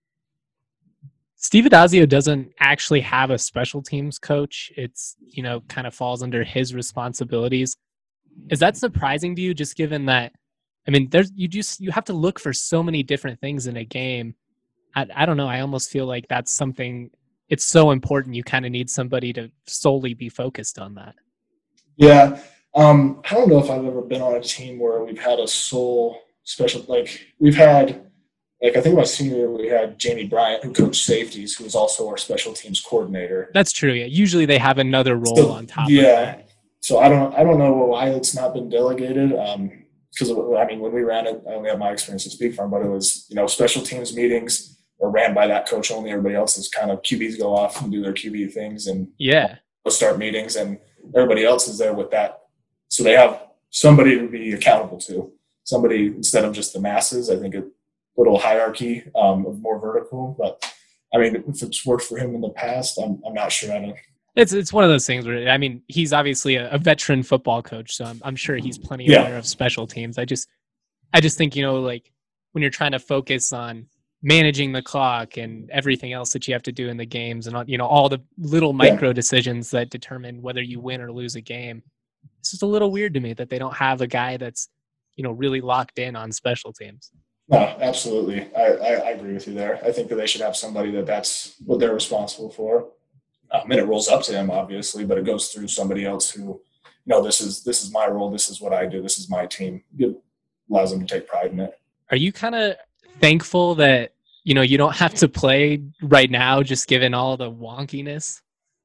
Steve Addazio doesn't actually have a special teams coach. It's, you know, kind of falls under his responsibilities. Is that surprising to you, just given that? I mean, there's you just you have to look for so many different things in a game. I, I don't know. I almost feel like that's something. It's so important. You kind of need somebody to solely be focused on that. Yeah, um, I don't know if I've ever been on a team where we've had a sole special. Like, we've had, like I think my senior year we had Jamie Bryant, who coached safeties, who was also our special teams coordinator. That's true. Yeah, usually they have another role so, on top. Yeah, of that. So I don't I don't know why it's not been delegated. Um, Because, I mean, when we ran it, I only have my experience to speak from, but it was, you know, special teams meetings are ran by that coach only. Everybody else is kind of Q Bs go off and do their Q B things and yeah, start meetings, and everybody else is there with that. So they have somebody to be accountable to, somebody instead of just the masses. I think a little hierarchy um, of more vertical, but I mean, if it's worked for him in the past, I'm, I'm not sure. I don't. It's it's one of those things where, I mean, he's obviously a, a veteran football coach, so I'm I'm sure he's plenty Yeah. aware of special teams. I just I just think, you know, like when you're trying to focus on managing the clock and everything else that you have to do in the games and, you know, all the little micro Yeah. decisions that determine whether you win or lose a game, it's just a little weird to me that they don't have a guy that's, you know, really locked in on special teams. No, absolutely. I, I, I agree with you there. I think that they should have somebody that that's what they're responsible for. Um, and it rolls up to him, obviously, but it goes through somebody else who, you know, this is this is my role. This is what I do. This is my team. It allows them to take pride in it. Are you kind of thankful that, you know, you don't have to play right now, just given all the wonkiness?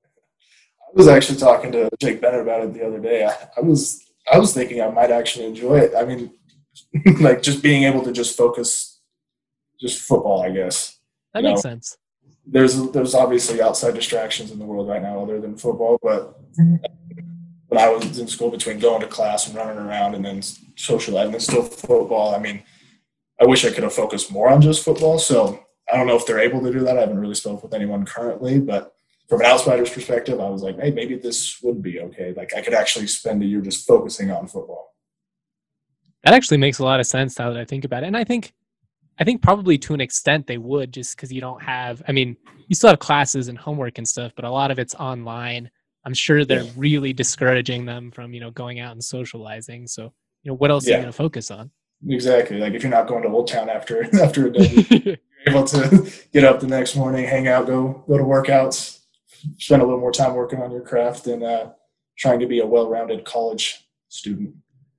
I was actually talking to Jake Bennett about it the other day. I, I was I was thinking I might actually enjoy it. I mean, like just being able to just focus, just football, I guess. That You makes know, sense. There's there's obviously outside distractions in the world right now other than football, but when I was in school, between going to class and running around and then socializing and still football, I mean, I wish I could have focused more on just football. So I don't know if they're able to do that. I haven't really spoken with anyone currently, but from an outsider's perspective, I was like, hey, maybe this would be okay. Like I could actually spend a year just focusing on football. That actually makes a lot of sense now that I think about it. And I think I think probably to an extent they would, just because you don't have, I mean, you still have classes and homework and stuff, but a lot of it's online. I'm sure they're Yeah. really discouraging them from, you know, going out and socializing. So, you know, what else are Yeah. you going to focus on? Exactly. Like if you're not going to Old Town after after a day, you're able to get up the next morning, hang out, go go to workouts, spend a little more time working on your craft and uh, trying to be a well-rounded college student.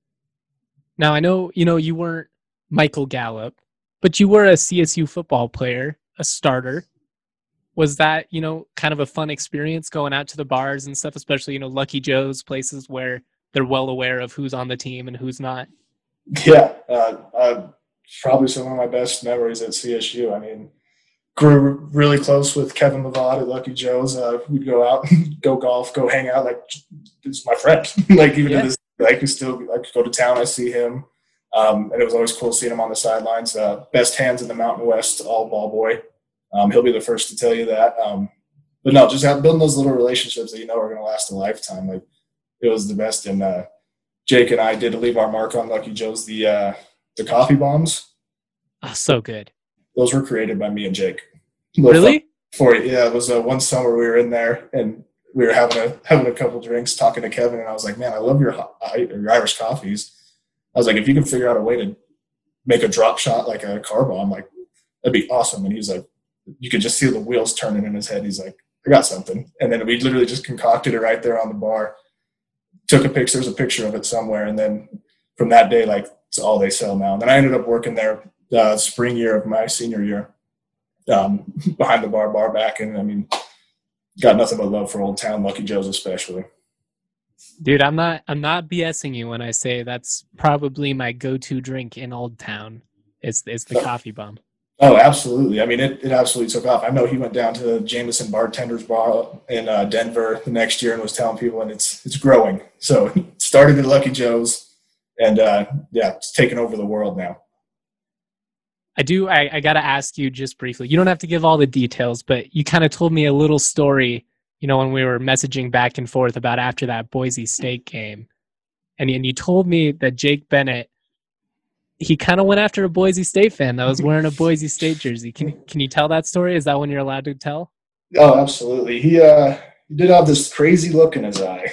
Now, I know, you know, you weren't Michael Gallup, but you were a C S U football player, a starter. Was that, you know, kind of a fun experience going out to the bars and stuff, especially, you know, Lucky Joe's, places where they're well aware of who's on the team and who's not? Yeah, uh, uh, probably some of my best memories at C S U. I mean, grew really close with Kevin Lavad at Lucky Joe's. Uh, we'd go out, go golf, go hang out. Like, it's my friend. Like, even Yeah. to this, like, we still like go to town. I see him, um, and it was always cool seeing him on the sidelines. Uh, best hands in the Mountain West, all ball boy. Um, he'll be the first to tell you that. Um, but no, just have, building those little relationships that you know are going to last a lifetime. Like, it was the best. And uh, Jake and I did leave our mark on Lucky Joe's. The uh, the coffee bombs. Oh, so good. Those were created by me and Jake. Really? For yeah, it was uh, one summer we were in there and we were having a having a couple drinks, talking to Kevin, and I was like, "Man, I love your your Irish coffees." I was like, "If you can figure out a way to make a drop shot like a car bomb, like that'd be awesome." And he was like, you could just see the wheels turning in his head. He's like, "I got something," and then we literally just concocted it right there on the bar. Took a picture, there's a picture of it somewhere, and then from that day, like it's all they sell now. And then I ended up working there uh, spring year of my senior year. Um, behind the bar, bar back, and I mean, got nothing but love for Old Town, Lucky Joe's especially. Dude, I'm not I'm not BSing you when I say that's probably my go-to drink in Old Town. It's it's the Oh. coffee bomb. Oh, absolutely. I mean, it, it absolutely took off. I know he went down to Jameson Bartender's Bar in uh, Denver the next year and was telling people, and it's it's growing. So it started at Lucky Joe's, and uh, yeah, it's taken over the world now. I do. I, I got to ask you just briefly. You don't have to give all the details, but you kind of told me a little story, you know, when we were messaging back and forth about after that Boise State game. And, and you told me that Jake Bennett, he kind of went after a Boise State fan that was wearing a Boise State jersey. Can, can you tell that story? Is that one you're allowed to tell? Oh, absolutely. He, uh, he did have this crazy look in his eye.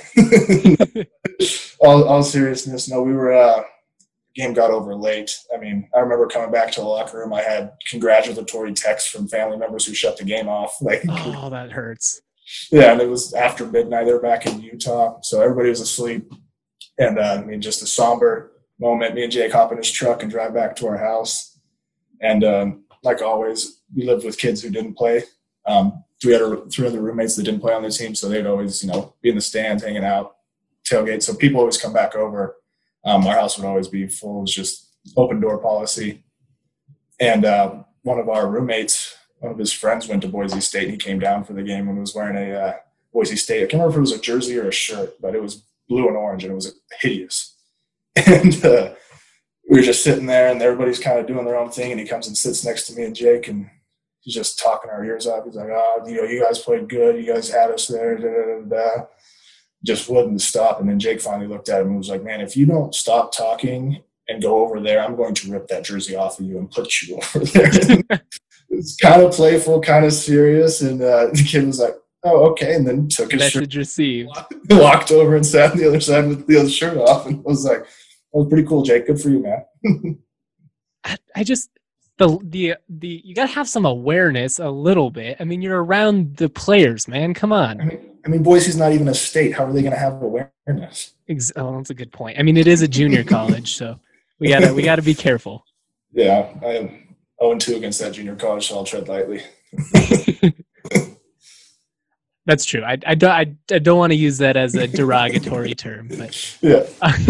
all, all seriousness. No, we were uh, – game got over late. I mean, I remember coming back to the locker room. I had congratulatory texts from family members who shut the game off. Like, Oh, that hurts. yeah, and it was after midnight. They were back in Utah, so everybody was asleep. And uh, I mean, just a somber moment. Me and Jake hop in his truck and drive back to our house. And um, like always, we lived with kids who didn't play. Um, we had a, three other roommates that didn't play on the team, so they'd always, you know, be in the stands, hanging out, tailgate. So people always come back over. Um, our house would always be full. It was just open door policy. And uh, one of our roommates one of his friends went to Boise State, and he came down for the game and was wearing a uh, Boise State. I can't remember if it was a jersey or a shirt, but it was blue and orange, and it was hideous. And uh, we were just sitting there, and everybody's kind of doing their own thing, and he comes and sits next to me and Jake, and he's just talking our ears off. He's like, oh, you know, you guys played good. You guys had us there. Da, da, da, da. Just wouldn't stop. And then Jake finally looked at him and was like, man, if you don't stop talking and go over there, I'm going to rip that jersey off of you and put you over there. It's kind of playful, kind of serious. And uh, the kid was like, oh, okay. And then took his Message shirt, received. walked over and sat on the other side with the other shirt off. And I was like, that was pretty cool, Jake. Good for you, man. I, I just the the the you gotta have some awareness a little bit. I mean, you're around the players, man. Come on. I mean, I mean Boise's not even a state. How are they going to have awareness? Ex- oh, that's a good point. I mean, it is a junior college, so we gotta we gotta be careful. Yeah, I am oh and two against that junior college, so I'll tread lightly. That's true. I, I don't I, I don't want to use that as a derogatory term, but yeah.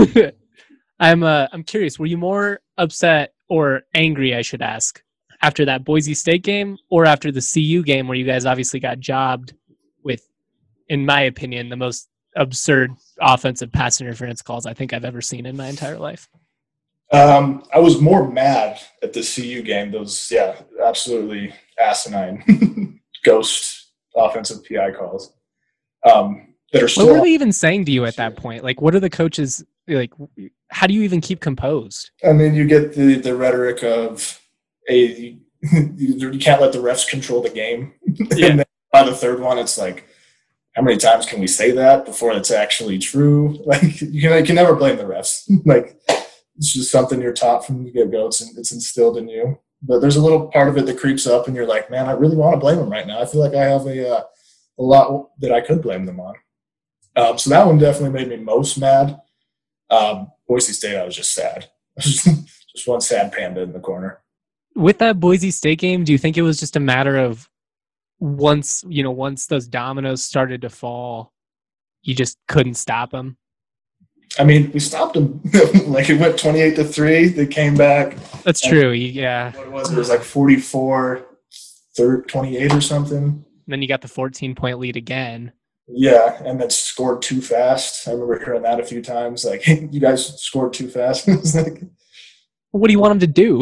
I'm uh, I'm curious. Were you more upset or angry, I should ask, after that Boise State game or after the C U game where you guys obviously got jobbed with, in my opinion, the most absurd offensive pass interference calls I think I've ever seen in my entire life? Um, I was more mad at the C U game. Those, yeah, absolutely asinine ghost offensive P I calls um, that are still. What were they even saying to you at that point? Like, what are the coaches like? How do you even keep composed? I mean, you get the the rhetoric of a you, you can't let the refs control the game. Yeah. And then by the third one, it's like, how many times can we say that before it's actually true? Like, you can you can never blame the refs. Like, it's just something you're taught from the get go. It's it's instilled in you. But there's a little part of it that creeps up, and you're like, man, I really want to blame them right now. I feel like I have a uh, a lot that I could blame them on. Um, so that one definitely made me most mad. Um, Boise State, I was just sad. Just one sad panda in the corner. With that Boise State game, do you think it was just a matter of once, you know, once those dominoes started to fall, you just couldn't stop them? I mean, we stopped them. Like, it went twenty-eight to three. They came back. That's true. Yeah. What was it? It was like forty-four, twenty-eight or something. And then you got the fourteen point lead again. Yeah, and then scored too fast. I remember hearing that a few times. Like, hey, you guys scored too fast. It's like, what do you want them to do?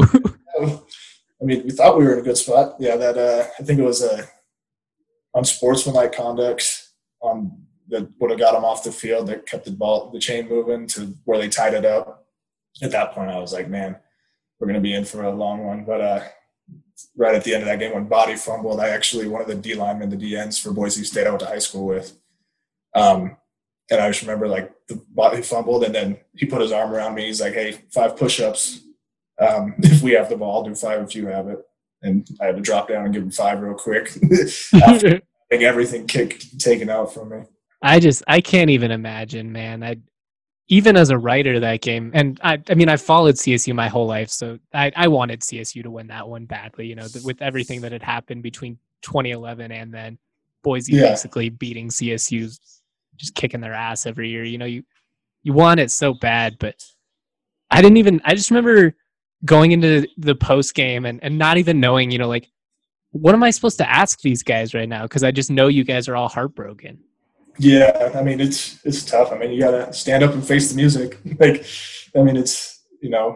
I mean, we thought we were in a good spot. Yeah, that uh, I think it was uh, unsportsmanlike conduct on that would have got them off the field, that kept the ball, the chain moving to where they tied it up. At that point, I was like, man, we're going to be in for a long one. But uh, right at the end of that game, when Body fumbled, I actually, one of the D linemen, the D Ns for Boise State I went to high school with. Um, and I just remember, like, the Body fumbled, and then he put his arm around me. He's like, hey, five push-ups. Um, if we have the ball, I'll do five if you have it. And I had to drop down and give him five real quick. After having everything kicked, taken out from me. I just, I can't even imagine, man. I, even as a writer that game, and I, I mean, I followed C S U my whole life, so I, I wanted C S U to win that one badly, you know, with everything that had happened between twenty eleven and then Boise yeah. basically beating C S U, just kicking their ass every year. You know, you, you want it so bad, but I didn't even, I just remember going into the post game and, and not even knowing, you know, like, what am I supposed to ask these guys right now? Because I just know you guys are all heartbroken. Yeah, I mean, it's it's tough. I mean, you got to stand up and face the music. Like, I mean, it's, you know,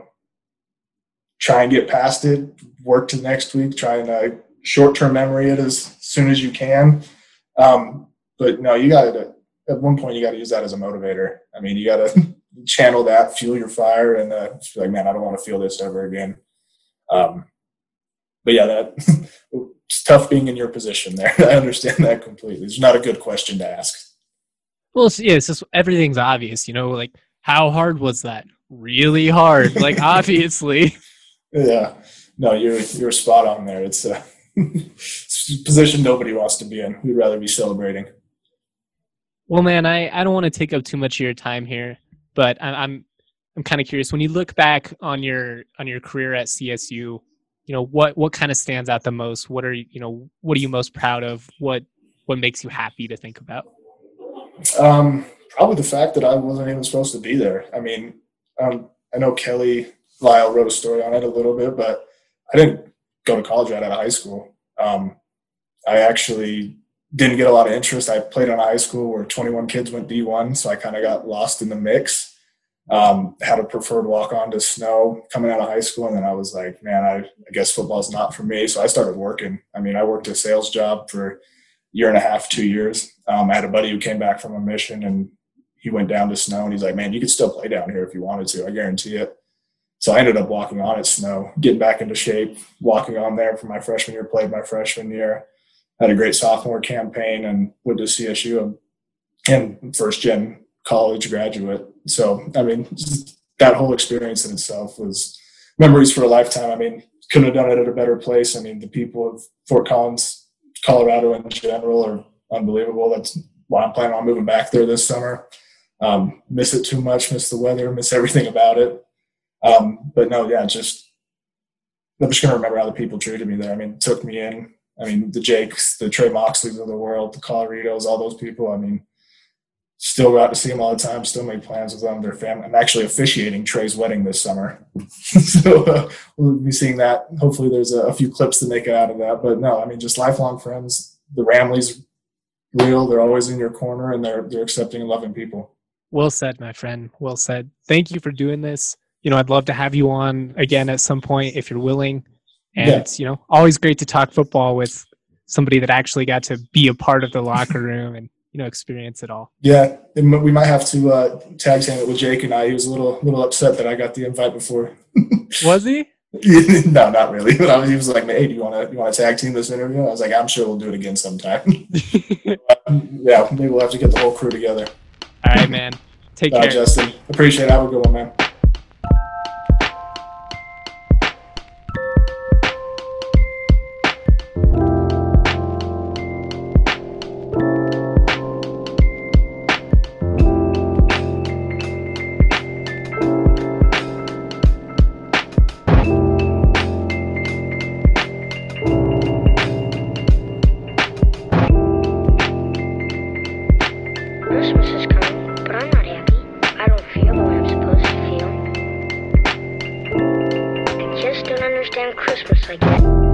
try and get past it, work to next week, try and uh, short-term memory it as soon as you can. Um, but, no, you got to, at one point, you got to use that as a motivator. I mean, you got to channel that, fuel your fire, and uh, just be like, man, I don't want to feel this ever again. Um, but, yeah, that it's tough being in your position there. I understand that completely. It's not a good question to ask. Well, it's, yeah, it's just everything's obvious, you know, like, how hard was that? Really hard, like, obviously. Yeah, no, you're you're spot on there. It's a, it's a position nobody wants to be in. We'd rather be celebrating. Well, man, I, I don't want to take up too much of your time here, but I, I'm I'm kind of curious. When you look back on your on your career at C S U, you know, what what kind of stands out the most? What are you you know what are you most proud of? What what makes you happy to think about? Um, probably the fact that I wasn't even supposed to be there. I mean, um, I know Kelly Lyle wrote a story on it a little bit, but I didn't go to college right out of high school. Um, I actually didn't get a lot of interest. I played in a high school where twenty-one kids went D one, so I kind of got lost in the mix. Um, had a preferred walk-on to Snow coming out of high school, and then I was like, man, I, I guess football's not for me. So I started working. I mean, I worked a sales job for a year and a half, two years. Um, I had a buddy who came back from a mission, and he went down to Snow, and he's like, man, you could still play down here if you wanted to. I guarantee it. So I ended up walking on at Snow, getting back into shape, walking on there for my freshman year, played my freshman year, had a great sophomore campaign, and went to C S U and first-gen college graduate. So, I mean, that whole experience in itself was memories for a lifetime. I mean, couldn't have done it at a better place. I mean, the people of Fort Collins, Colorado in general are unbelievable. That's why I'm planning on moving back there this summer. Um, miss it too much, miss the weather, miss everything about it. Um, but no, yeah, just I'm just going to remember how the people treated me there. I mean, took me in. I mean, the Jakes, the Trey Moxleys of the world, the Coloritos, all those people. I mean, still got to see them all the time, still make plans with them, their family. I'm actually officiating Trey's wedding this summer. so uh, we'll be seeing that. Hopefully there's a, a few clips to make it out of that. But no, I mean, just lifelong friends. The Ramleys, real. They're always in your corner, and they're they're accepting and loving people. Well said, my friend. Well said. Thank you for doing this. You know, I'd love to have you on again at some point if you're willing. And yeah. It's, you know, always great to talk football with somebody that actually got to be a part of the locker room and, you know, experience it all. Yeah, and we might have to uh, tag team it with Jake and I. He was a little little upset that I got the invite before. Was he? No, not really. But I was, he was like, "Hey, do you want to you want to tag team this interview?" I was like, "I'm sure we'll do it again sometime." Yeah, maybe we'll have to get the whole crew together. All right, man. Take All care, right, Justin. Appreciate it. Have a good one, man. Christmas is coming, but I'm not happy. I don't feel the way I'm supposed to feel. I just don't understand Christmas like that.